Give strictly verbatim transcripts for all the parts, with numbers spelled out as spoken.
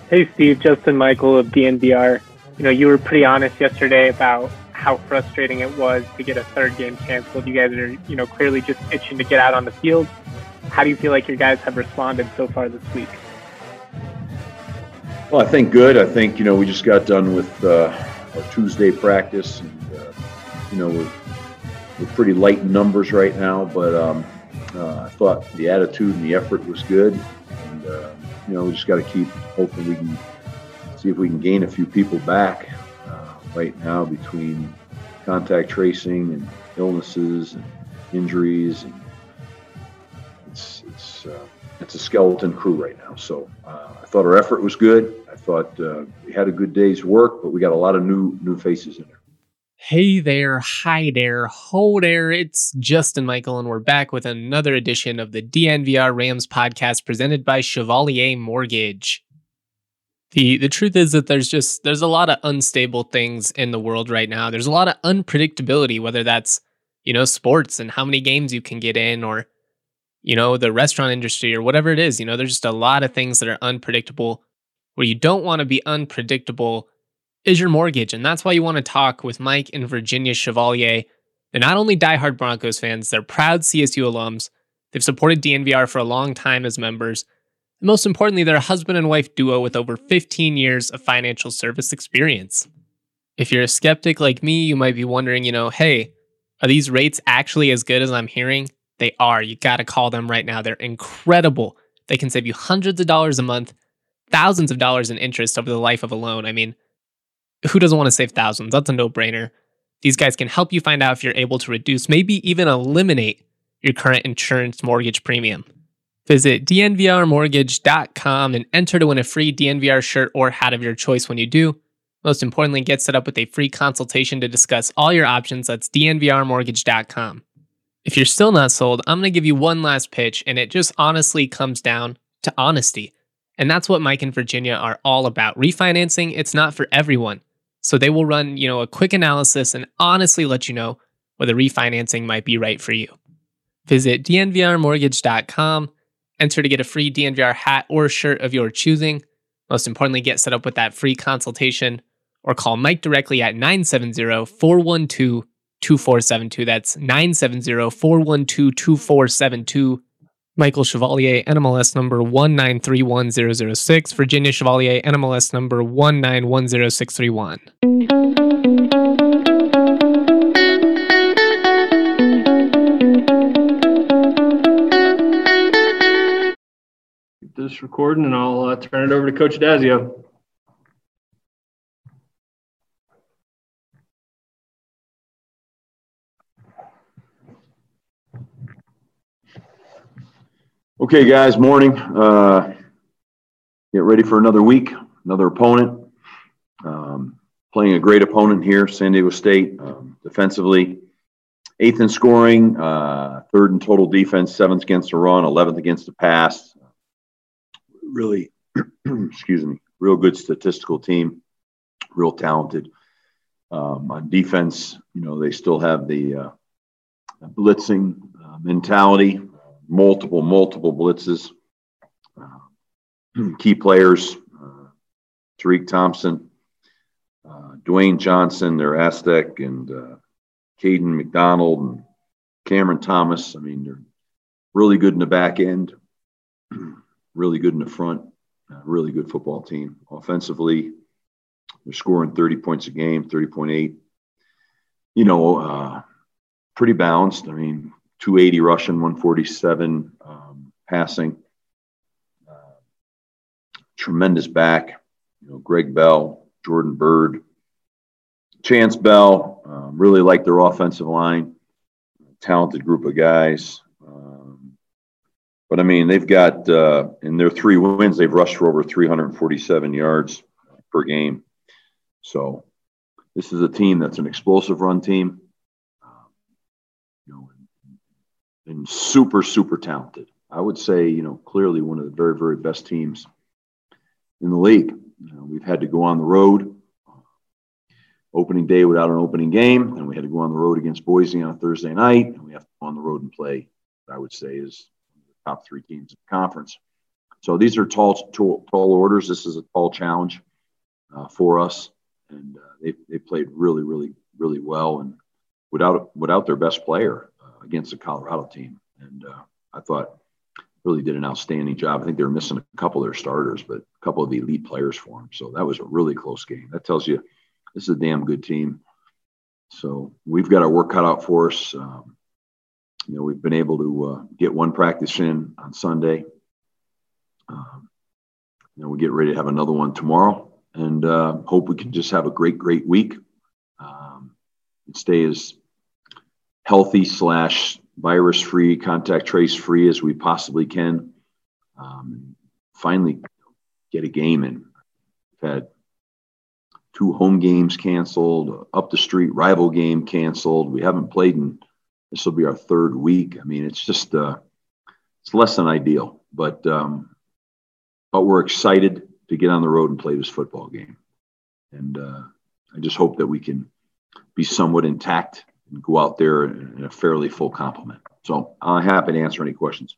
Hey, Steve, Justin Michael of D N V R. You know, you were pretty honest yesterday about how frustrating it was to get a third game canceled. You guys are, you know, clearly just itching to get out on the field. How do you feel like your guys have responded so far this week? Well, I think good. I think, you know, we just got done with uh, our Tuesday practice. And, uh, you know, we're, we're pretty light in numbers right now, but um, uh, I thought the attitude and the effort was good. And, uh, you know, we just got to keep hoping we can see if we can gain a few people back uh, right now between contact tracing and illnesses and injuries. And it's, it's, uh, it's a skeleton crew right now. So uh, I thought our effort was good. I thought uh, we had a good day's work, but we got a lot of new new faces in there. Hey there, hi there, ho there, it's Justin Michael, and we're back with another edition of the D N V R Rams podcast presented by Chevalier Mortgage. The the truth is that there's just, there's a lot of unstable things in the world right now. There's a lot of unpredictability, whether that's, you know, sports and how many games you can get in, or, you know, the restaurant industry or whatever it is. You know, there's just a lot of things that are unpredictable. Where you don't want to be unpredictable is your mortgage. And that's why you want to talk with Mike and Virginia Chevalier. They're not only diehard Broncos fans, they're proud C S U alums. They've supported D N V R for a long time as members. And most importantly, they're a husband and wife duo with over fifteen years of financial service experience. If you're a skeptic like me, you might be wondering, you know, hey, are these rates actually as good as I'm hearing? They are. You got to call them right now. They're incredible. They can save you hundreds of dollars a month, thousands of dollars in interest over the life of a loan. I mean, who doesn't want to save thousands? That's a no-brainer. These guys can help you find out if you're able to reduce, maybe even eliminate your current insurance mortgage premium. Visit D N V R mortgage dot com and enter to win a free D N V R shirt or hat of your choice when you do. Most importantly, get set up with a free consultation to discuss all your options. That's D N V R mortgage dot com. If you're still not sold, I'm going to give you one last pitch, and it just honestly comes down to honesty. And that's what Mike and Virginia are all about. Refinancing, it's not for everyone. So they will run, you know, a quick analysis and honestly let you know whether refinancing might be right for you. Visit D N V R mortgage dot com, enter to get a free D N V R hat or shirt of your choosing. Most importantly, get set up with that free consultation or call Mike directly at nine seven zero, four one two, two four seven two. That's nine seven zero, four one two, two four seven two. Michael Chevalier, N M L S number one nine three one zero zero six. Virginia Chevalier, N M L S number one nine one zero six three one. Get this recording, and I'll uh, turn it over to Coach Dazio. Okay, guys, morning. Uh, get ready for another week, another opponent. Um, playing a great opponent here, San Diego State, um, defensively. Eighth in scoring, uh, third in total defense, seventh against the run, eleventh against the pass. Really, excuse me, real good statistical team, real talented. Um, on defense, you know, they still have the uh, blitzing uh, mentality. Multiple, multiple blitzes. Uh, key players, uh, Tariq Thompson, uh, Dwayne Johnson, their Aztec, and uh, Caden McDonald and Cameron Thomas. I mean, they're really good in the back end, really good in the front, uh, really good football team. Offensively, they're scoring thirty points a game, thirty point eight. You know, uh, pretty balanced. I mean, two eighty rushing, one forty-seven um, passing. Uh, tremendous back. You know, Greg Bell, Jordan Bird, Chance Bell. Um, really like their offensive line. Talented group of guys. Um, but, I mean, they've got, uh, in their three wins, they've rushed for over three hundred forty-seven yards per game. So this is a team that's an explosive run team. You know, and super, super talented. I would say, you know, clearly one of the very, very best teams in the league. You know, we've had to go on the road opening day without an opening game, and we had to go on the road against Boise on a Thursday night, and we have to go on the road and play, I would say, is one of the top three teams in the conference. So these are tall, tall, tall orders. This is a tall challenge uh, for us, and uh, they they played really, really, really well, and without without their best player uh, against the Colorado team. And uh, I thought really did an outstanding job. I think they were missing a couple of their starters, but a couple of elite players for them. So that was a really close game. That tells you this is a damn good team. So we've got our work cut out for us. Um, you know, we've been able to uh, get one practice in on Sunday. Um, you know, we get ready to have another one tomorrow, and uh, hope we can just have a great, great week um, and stay as healthy slash virus free, contact trace free as we possibly can. Um, finally get a game in. We've had two home games canceled, up the street rival game canceled. We haven't played in, this will be our third week. I mean, it's just, uh, it's less than ideal, but, um, but we're excited to get on the road and play this football game. And uh, I just hope that we can be somewhat intact and go out there in a fairly full complement. So I'm happy to answer any questions.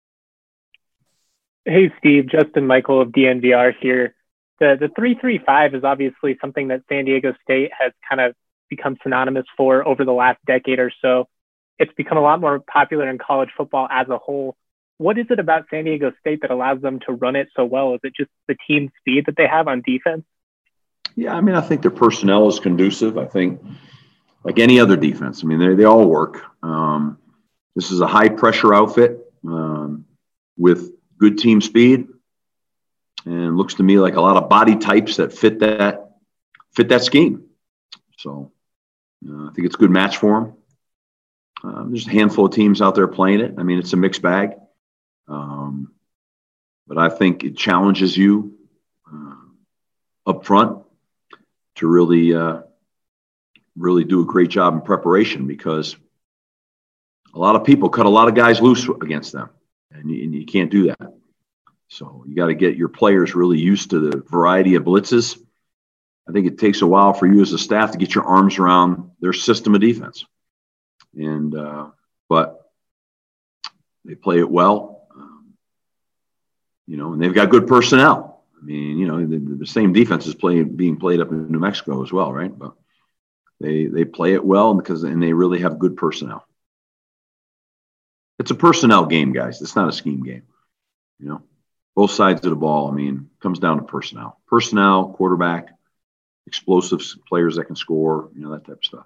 Hey, Steve, Justin Michael of D N V R here. The the three three five is obviously something that San Diego State has kind of become synonymous for over the last decade or so. It's become a lot more popular in college football as a whole. What is it about San Diego State that allows them to run it so well? Is it just the team speed that they have on defense? Yeah, I mean, I think their personnel is conducive. I think like any other defense, I mean, they, they all work. Um, this is a high-pressure outfit um, with good team speed, and looks to me like a lot of body types that fit that fit that scheme. So uh, I think it's a good match for them. Um, there's a handful of teams out there playing it. I mean, it's a mixed bag. Um, but I think it challenges you uh, up front to really, uh, really do a great job in preparation, because a lot of people cut a lot of guys loose against them, and you, and you can't do that. So you got to get your players really used to the variety of blitzes. I think it takes a while for you as a staff to get your arms around their system of defense. And, uh, but they play it well. You know, and they've got good personnel. I mean, you know, the, the same defense is playing, being played up in New Mexico as well, right? But they they play it well because, and they really have good personnel. It's a personnel game, guys. It's not a scheme game. You know, both sides of the ball. I mean, comes down to personnel, personnel, quarterback, explosive players that can score. You know, that type of stuff.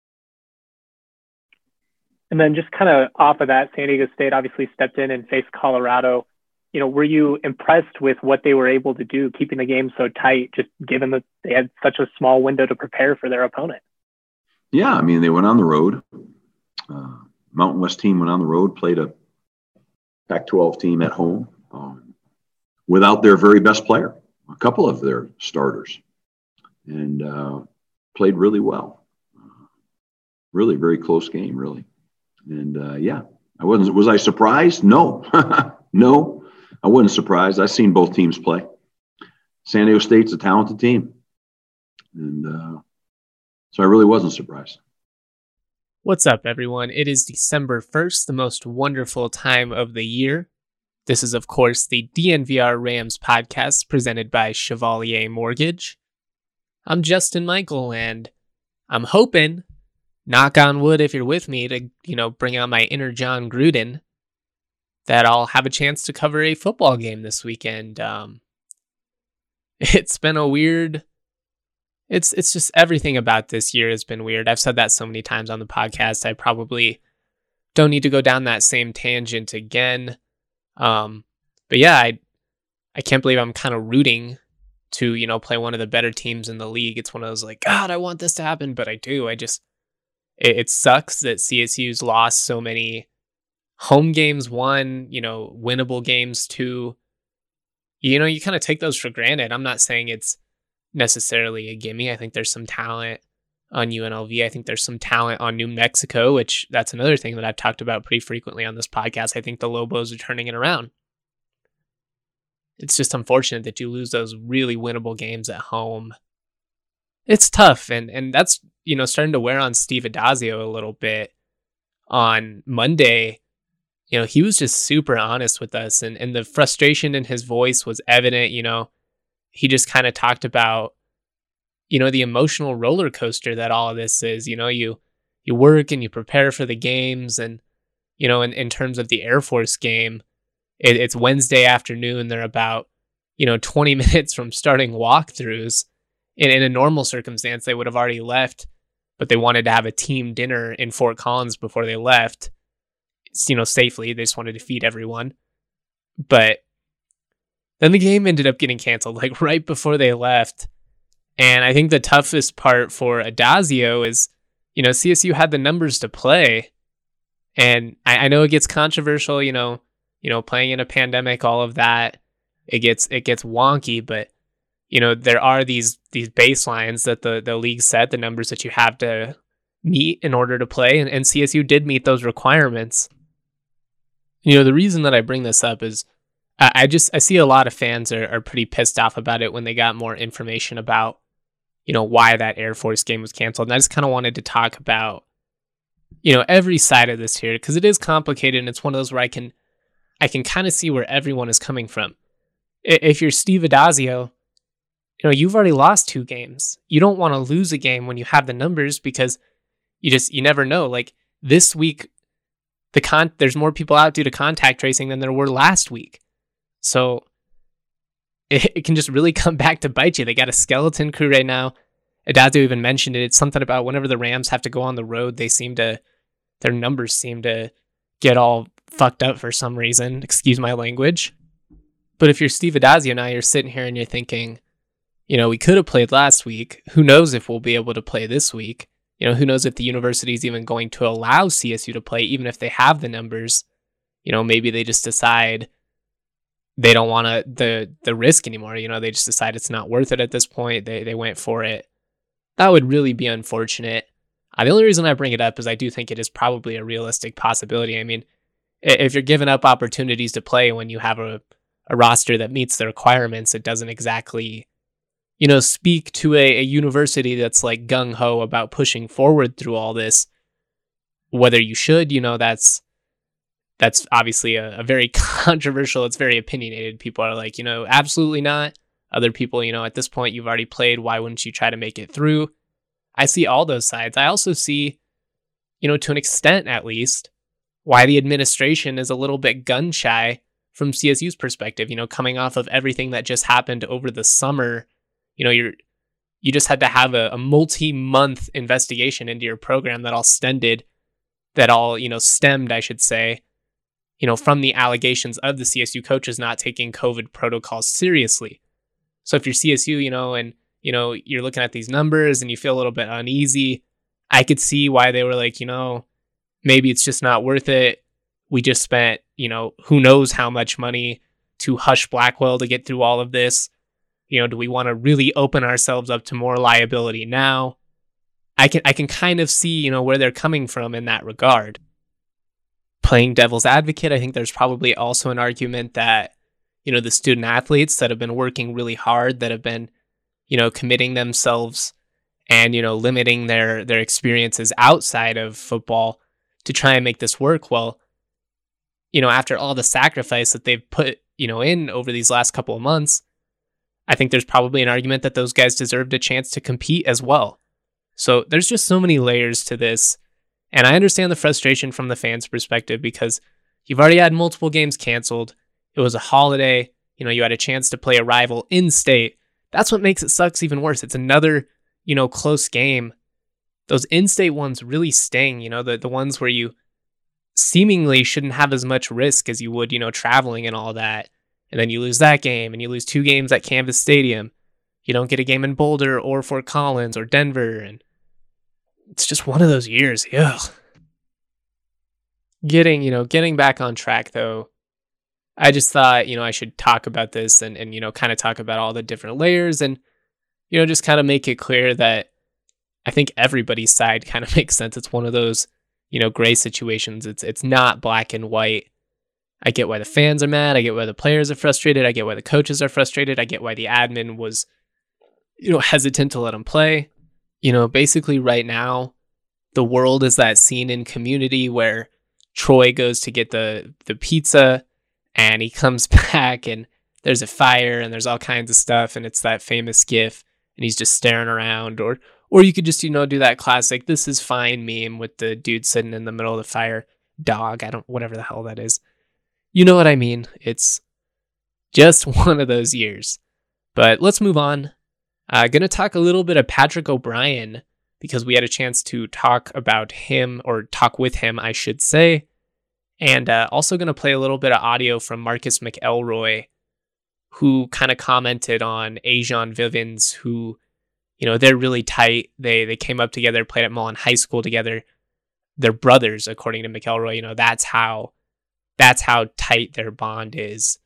And then just kind of off of that, San Diego State obviously stepped in and faced Colorado. You know, were you impressed with what they were able to do, keeping the game so tight, just given that they had such a small window to prepare for their opponent? Yeah, I mean, they went on the road. Uh, Mountain West team went on the road, played a Pac twelve team at home um, without their very best player, a couple of their starters, and uh, played really well. Uh, really, very close game, really. And, uh, yeah, I wasn't. Was I surprised? No. No. I wasn't surprised. I've seen both teams play. San Diego State's a talented team. And uh, so I really wasn't surprised. What's up, everyone? It is December first, the most wonderful time of the year. This is, of course, the D N V R Rams podcast presented by Chevalier Mortgage. I'm Justin Michael, and I'm hoping, knock on wood if you're with me, to, you know, bring out my inner John Gruden, that I'll have a chance to cover a football game this weekend. Um, it's been a weird, it's it's just everything about this year has been weird. I've said that so many times on the podcast. I probably don't need to go down that same tangent again. Um, but yeah, I I can't believe I'm kind of rooting to, you know, play one of the better teams in the league. It's one of those like, God, I want this to happen, but I do. I just, it, it sucks that C S U's lost so many home games, one, you know, winnable games, two. You know, you kind of take those for granted. I'm not saying it's necessarily a gimme. I think there's some talent on U N L V. I think there's some talent on New Mexico, which that's another thing that I've talked about pretty frequently on this podcast. I think the Lobos are turning it around. It's just unfortunate that you lose those really winnable games at home. It's tough, and and that's, you know, starting to wear on Steve Addazio a little bit. On Monday, you know, he was just super honest with us, and, and the frustration in his voice was evident. You know, he just kind of talked about, you know, the emotional roller coaster that all of this is. You know, you you work and you prepare for the games, and, you know, in, in terms of the Air Force game, it, it's Wednesday afternoon. They're about, you know, twenty minutes from starting walkthroughs. In, in a normal circumstance, they would have already left, but they wanted to have a team dinner in Fort Collins before they left, you know, safely. They just wanted to feed everyone. But then the game ended up getting canceled, like right before they left. And I think the toughest part for Addazio is, you know, C S U had the numbers to play. And I, I know it gets controversial, you know, you know, playing in a pandemic, all of that, it gets it gets wonky, but you know, there are these these baselines that the, the league set, the numbers that you have to meet in order to play, and, and C S U did meet those requirements. You know, the reason that I bring this up is I, I just I see a lot of fans are, are pretty pissed off about it when they got more information about, you know, why that Air Force game was canceled. And I just kind of wanted to talk about, you know, every side of this here, because it is complicated, and it's one of those where I can I can kind of see where everyone is coming from. If you're Steve Addazio, you know, you've already lost two games. You don't want to lose a game when you have the numbers, because you just, you never know. Like this week, the con there's more people out due to contact tracing than there were last week. So it, it can just really come back to bite you. They got a skeleton crew right now. Addazio even mentioned it. It's something about whenever the Rams have to go on the road, they seem to, their numbers seem to get all fucked up for some reason. Excuse my language. But if you're Steve Addazio now, you're sitting here and you're thinking, you know, we could have played last week. Who knows if we'll be able to play this week? You know, who knows if the university is even going to allow C S U to play, even if they have the numbers. You know, maybe they just decide they don't want to the the risk anymore. You know, they just decide it's not worth it at this point. They they went for it. That would really be unfortunate. Uh, the only reason I bring it up is I do think it is probably a realistic possibility. I mean, if you're giving up opportunities to play when you have a, a roster that meets the requirements, it doesn't exactly, you know, speak to a, a university that's like gung-ho about pushing forward through all this. Whether you should, you know, that's that's obviously a, a very controversial, it's very opinionated. People are like, you know, absolutely not. Other people, you know, at this point, you've already played. Why wouldn't you try to make it through? I see all those sides. I also see, you know, to an extent at least, why the administration is a little bit gun shy from C S U's perspective, you know, coming off of everything that just happened over the summer. You know, you're, you just had to have a, a multi-month investigation into your program that all stemmed, that all, you know, stemmed, I should say, you know, from the allegations of the C S U coaches not taking COVID protocols seriously. So if you're C S U, you know, and, you know, you're looking at these numbers and you feel a little bit uneasy, I could see why they were like, you know, maybe it's just not worth it. We just spent, you know, who knows how much money to hush Blackwell to get through all of this. You know, do we want to really open ourselves up to more liability now? I can I can kind of see, you know, where they're coming from in that regard. Playing devil's advocate, I think there's probably also an argument that, you know, the student athletes that have been working really hard, that have been, you know, committing themselves and, you know, limiting their their experiences outside of football to try and make this work. Well, you know, after all the sacrifice that they've put, you know, in over these last couple of months, I think there's probably an argument that those guys deserved a chance to compete as well. So there's just so many layers to this. And I understand the frustration from the fans' perspective, because you've already had multiple games canceled. It was a holiday. You know, you had a chance to play a rival in state. That's what makes it sucks even worse. It's another, you know, close game. Those in-state ones really sting, you know, the, the ones where you seemingly shouldn't have as much risk as you would, you know, traveling and all that. And then you lose that game, and you lose two games at Canvas Stadium. You don't get a game in Boulder or Fort Collins or Denver. And it's just one of those years. Ugh. Getting, you know, getting back on track though, I just thought, you know, I should talk about this and, and, you know, kind of talk about all the different layers and, you know, just kind of make it clear that I think everybody's side kind of makes sense. It's one of those, you know, gray situations. It's, it's not black and white. I get why the fans are mad. I get why the players are frustrated. I get why the coaches are frustrated. I get why the admin was, you know, hesitant to let them play. You know, basically right now, the world is that scene in Community where Troy goes to get the, the pizza and he comes back and there's a fire and there's all kinds of stuff. And it's that famous gif and he's just staring around. Or, or you could just, you know, do that classic, this is fine meme with the dude sitting in the middle of the fire. Dog. I don't, whatever the hell that is. You know what I mean? It's just one of those years. But let's move on. I'm uh, going to talk a little bit of Patrick O'Brien because we had a chance to talk about him, or talk with him, I should say. And uh, also going to play a little bit of audio from Marcus McElroy, who kind of commented on Ajon Vivens, who, you know, they're really tight. They they came up together, played at Mullen High School together. They're brothers, according to McElroy. You know, that's how that's how tight their bond is.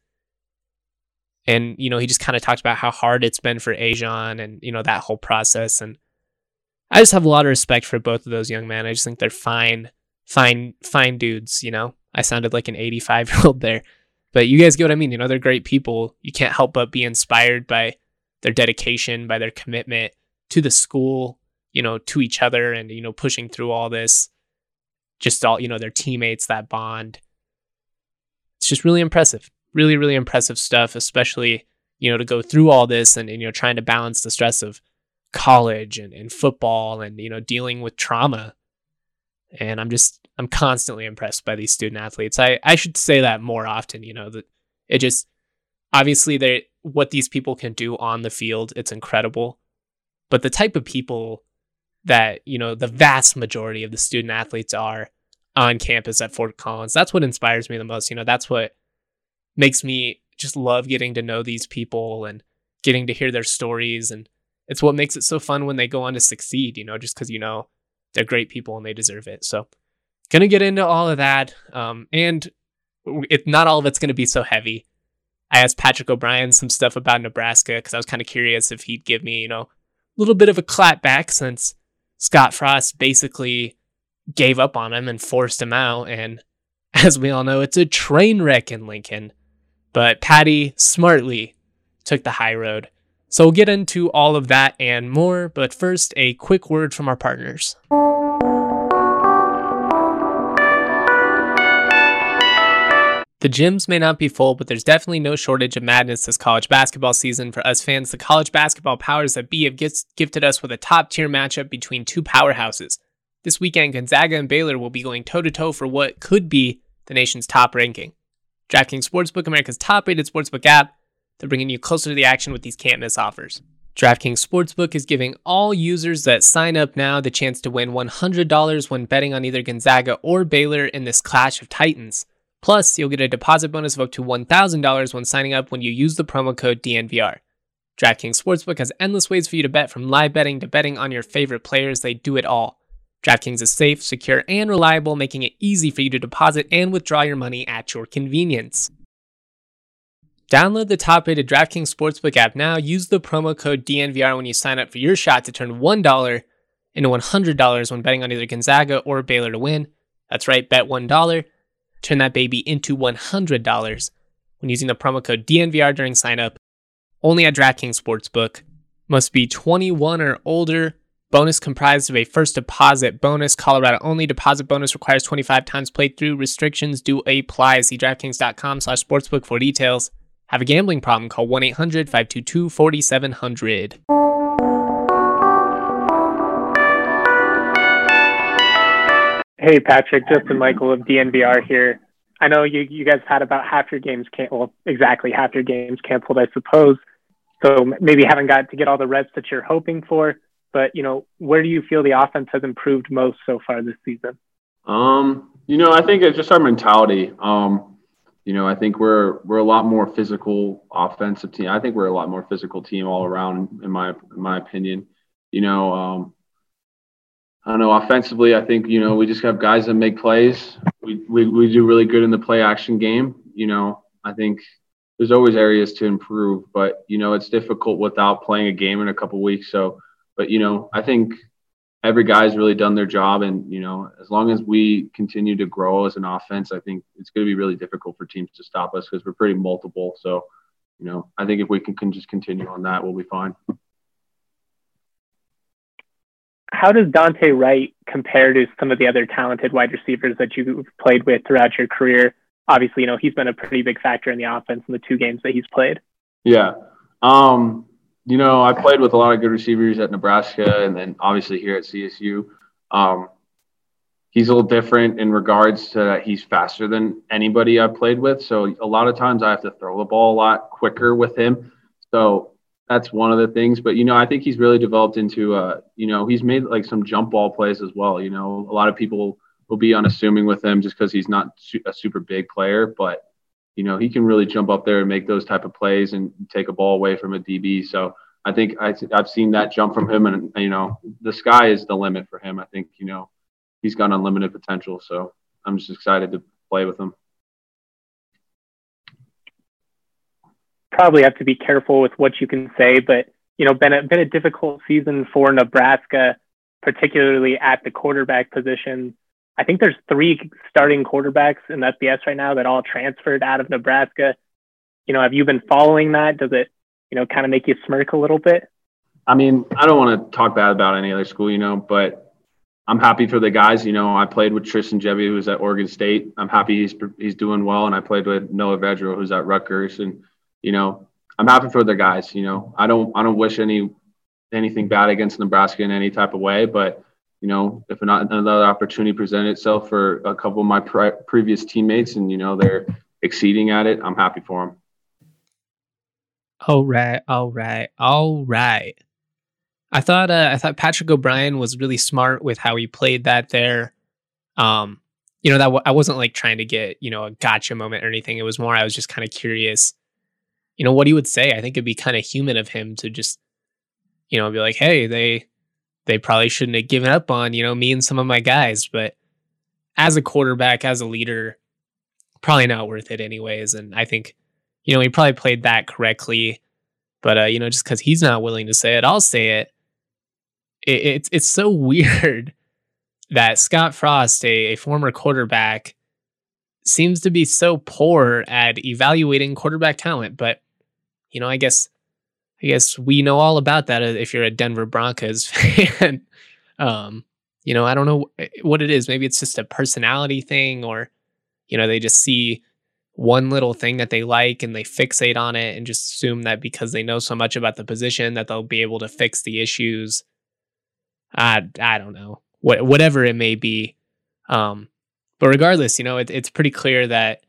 And, you know, he just kind of talked about how hard it's been for Ajon and, you know, that whole process. And I just have a lot of respect for both of those young men. I just think they're fine, fine, fine dudes, you know. I sounded like an eighty-five-year-old there. But you guys get what I mean. You know, they're great people. You can't help but be inspired by their dedication, by their commitment to the school, you know, to each other and, you know, pushing through all this. Just all, you know, their teammates, that bond. It's just really impressive. Really, really impressive stuff, especially, you know, to go through all this and, and you know, trying to balance the stress of college and, and football and, you know, dealing with trauma. And I'm just, I'm constantly impressed by these student athletes. I, I should say that more often, you know, that it just, obviously they what these people can do on the field, it's incredible. But the type of people that, you know, the vast majority of the student athletes are on campus at Fort Collins, that's what inspires me the most. You know, that's what makes me just love getting to know these people and getting to hear their stories. And it's what makes it so fun when they go on to succeed, you know, just because, you know, they're great people and they deserve it. So going to get into all of that. Um, and it, not all of it's going to be so heavy. I asked Patrick O'Brien some stuff about Nebraska because I was kind of curious if he'd give me, you know, a little bit of a clap back since Scott Frost basically gave up on him and forced him out. And as we all know, it's a train wreck in Lincoln. But Patty smartly took the high road. So we'll get into all of that and more. But first, a quick word from our partners. The gyms may not be full, but there's definitely no shortage of madness this college basketball season. For us fans, the college basketball powers that be have gifted us with a top-tier matchup between two powerhouses. This weekend, Gonzaga and Baylor will be going toe-to-toe for what could be the nation's top ranking. DraftKings Sportsbook, America's top-rated sportsbook app, they're bringing you closer to the action with these can't-miss offers. DraftKings Sportsbook is giving all users that sign up now the chance to win one hundred dollars when betting on either Gonzaga or Baylor in this clash of titans. Plus, you'll get a deposit bonus of up to one thousand dollars when signing up when you use the promo code D N V R. DraftKings Sportsbook has endless ways for you to bet, from live betting to betting on your favorite players. They do it all. DraftKings is safe, secure, and reliable, making it easy for you to deposit and withdraw your money at your convenience. Download the top-rated DraftKings Sportsbook app now. Use the promo code D N V R when you sign up for your shot to turn one dollar into one hundred dollars when betting on either Gonzaga or Baylor to win. That's right, bet one dollar. Turn that baby into one hundred dollars when using the promo code D N V R during sign-up. Only at DraftKings Sportsbook. Must be twenty-one or older. Bonus comprised of a first deposit bonus. Colorado only. Deposit bonus requires twenty-five times played through. Restrictions do apply. See DraftKings.com slash sportsbook for details. Have a gambling problem? Call one eight hundred five two two four seven zero zero. Hey, Patrick, Justin Michael of D N V R here. I know you, you guys had about half your games, can- well, exactly half your games canceled, I suppose. So maybe haven't got to get all the reps that you're hoping for. But, you know, where do you feel the offense has improved most so far this season? Um, you know, I think it's just our mentality. Um, you know, I think we're we're a lot more physical offensive team. I think we're a lot more physical team all around, in my in my opinion. You know, um, I don't know, offensively, I think, you know, we just have guys that make plays. We, we we do really good in the play action game. You know, I think there's always areas to improve, but, you know, it's difficult without playing a game in a couple weeks. So, but, you know, I think every guy's really done their job. And, you know, as long as we continue to grow as an offense, I think it's going to be really difficult for teams to stop us because we're pretty multiple. So, you know, I think if we can, can just continue on that, we'll be fine. how does Dante Wright compare to some of the other talented wide receivers that you've played with throughout your career? Obviously, you know, he's been a pretty big factor in the offense in the two games that he's played. Yeah. Um, you know, I played with a lot of good receivers at Nebraska and then obviously here at C S U. Um, he's a little different in regards to that he's faster than anybody I've played with. So a lot of times I have to throw the ball a lot quicker with him. So that's one of the things. But, you know, I think he's really developed into, uh, you know, he's made like some jump ball plays as well. You know, a lot of people will be unassuming with him just because he's not a super big player. But, you know, he can really jump up there and make those type of plays and take a ball away from a D B. So I think I, I've seen that jump from him. And, you know, the sky is the limit for him. I think, you know, he's got unlimited potential. So I'm just excited to play with him. Probably have to be careful with what you can say, but, you know, been a, been a difficult season for Nebraska, particularly at the quarterback position. I think there's three starting quarterbacks in F B S right now that all transferred out of Nebraska. You know, have you been following that? Does it, you know, kind of make you smirk a little bit? I mean, I don't want to talk bad about any other school, you know, but I'm happy for the guys. You know, I played with Tristan Gebbia, who's at Oregon State. I'm happy he's he's doing well, and I played with Noah Vedra, who's at Rutgers, and you know, I'm happy for the guys. You know, I don't I don't wish any anything bad against Nebraska in any type of way, but you know, if not another opportunity presented itself for a couple of my pre- previous teammates, and you know they're exceeding at it, I'm happy for them. All right, all right, all right. I thought uh, I thought Patrick O'Brien was really smart with how he played that there. Um, you know, that w- I wasn't like trying to get, you know, a gotcha moment or anything. It was more I was just kind of curious, you know, what he would say. I think it'd be kind of human of him to just, you know, be like, hey, they they probably shouldn't have given up on, you know, me and some of my guys. But as a quarterback, as a leader, probably not worth it anyways. And I think, you know, he probably played that correctly. But, uh, you know, just because he's not willing to say it, I'll say it. it it's it's so weird that Scott Frost, a, a former quarterback, seems to be so poor at evaluating quarterback talent. But, you know, I guess I guess we know all about that if you're a Denver Broncos fan. um, you know, I don't know what it is. Maybe it's just a personality thing, or, you know, they just see one little thing that they like and they fixate on it and just assume that because they know so much about the position that they'll be able to fix the issues. I, I don't know. What, whatever it may be. Um, but regardless, you know, it, it's pretty clear that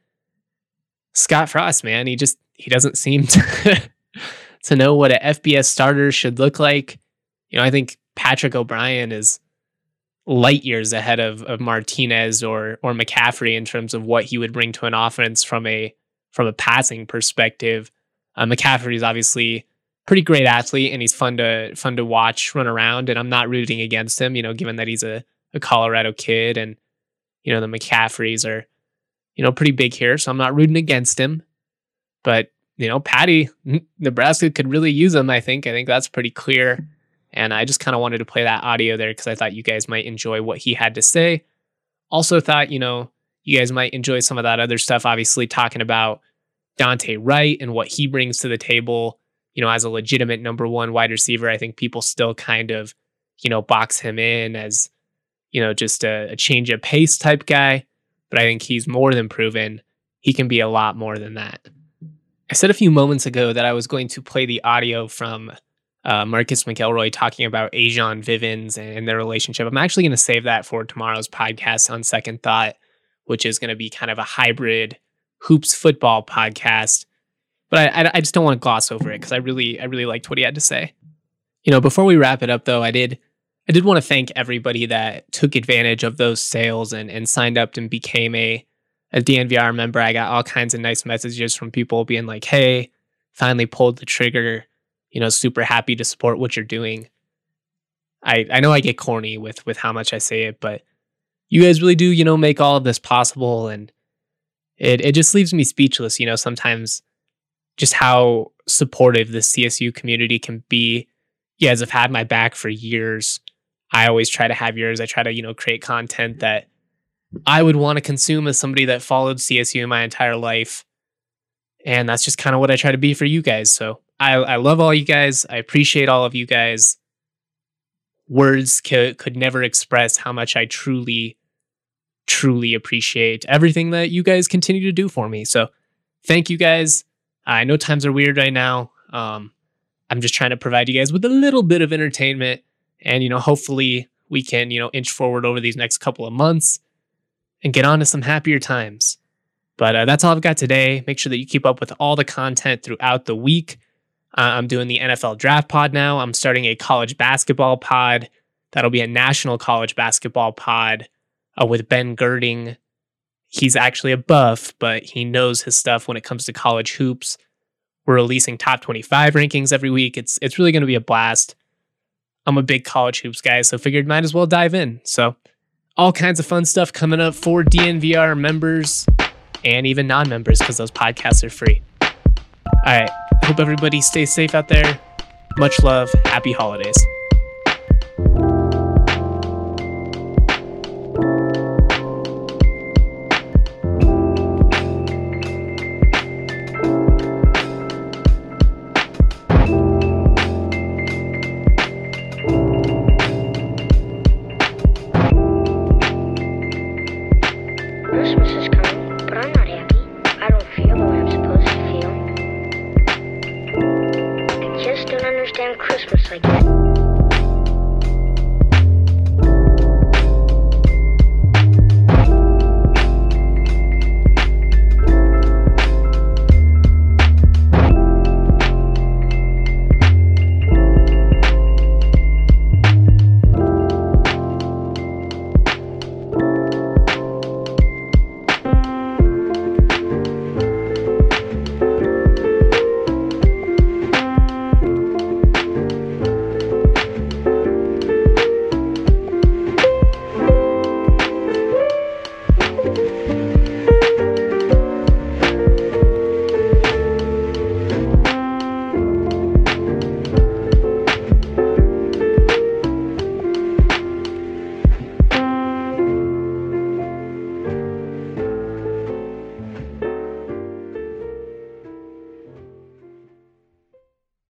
Scott Frost, man, he just, he doesn't seem to, to know what a F B S starter should look like. You know, I think Patrick O'Brien is light years ahead of, of Martinez or or McCaffrey in terms of what he would bring to an offense from a from a passing perspective. Uh, McCaffrey is obviously pretty great athlete, and he's fun to fun to watch run around. And I'm not rooting against him, you know, given that he's a, a Colorado kid, and you know the McCaffreys are, you know, pretty big here, so I'm not rooting against him. But you know, Patty, Nebraska could really use him. I think. I think that's pretty clear. And I just kind of wanted to play that audio there because I thought you guys might enjoy what he had to say. Also thought, you know, you guys might enjoy some of that other stuff, obviously talking about Dante Wright and what he brings to the table, you know, as a legitimate number one wide receiver. I think people still kind of, you know, box him in as, you know, just a, a change of pace type guy. But I think he's more than proven he can be a lot more than that. I said a few moments ago that I was going to play the audio from Uh, Marcus McElroy talking about Ajon Vivens and their relationship. I'm actually going to save that for tomorrow's podcast on second thought, which is going to be kind of a hybrid hoops football podcast. But I, I, I just don't want to gloss over it because I really, I really liked what he had to say. You know, before we wrap it up, though, I did, I did want to thank everybody that took advantage of those sales and and signed up and became a a D N V R member. I got all kinds of nice messages from people being like, "Hey, finally pulled the trigger. You know, super happy to support what you're doing." I, I know I get corny with, with how much I say it, but you guys really do, you know, make all of this possible. And it, it just leaves me speechless, you know, sometimes just how supportive the C S U community can be. You guys have had my back for years. I always try to have yours. I try to, you know, create content that I would want to consume as somebody that followed C S U my entire life. And that's just kind of what I try to be for you guys. So I, I love all you guys. I appreciate all of you guys. words could, could never express how much I truly, truly appreciate everything that you guys continue to do for me. So thank you guys. I know times are weird right now. Um, I'm just trying to provide you guys with a little bit of entertainment, and, you know, hopefully we can, you know, inch forward over these next couple of months and get on to some happier times. But uh, that's all I've got today. Make sure that you keep up with all the content throughout the week. Uh, I'm doing the N F L Draft Pod now. I'm starting a college basketball pod. That'll be a national college basketball pod uh, with Ben Girding. He's actually a buff, but he knows his stuff when it comes to college hoops. We're releasing top twenty-five rankings every week. It's it's really going to be a blast. I'm a big college hoops guy, so figured might as well dive in. So all kinds of fun stuff coming up for D N V R members and even non-members, because those podcasts are free. All right. Hope everybody stays safe out there. Much love. Happy holidays. Christmas is coming, but I'm not happy. I don't feel the way I'm supposed to feel. I just don't understand Christmas like that.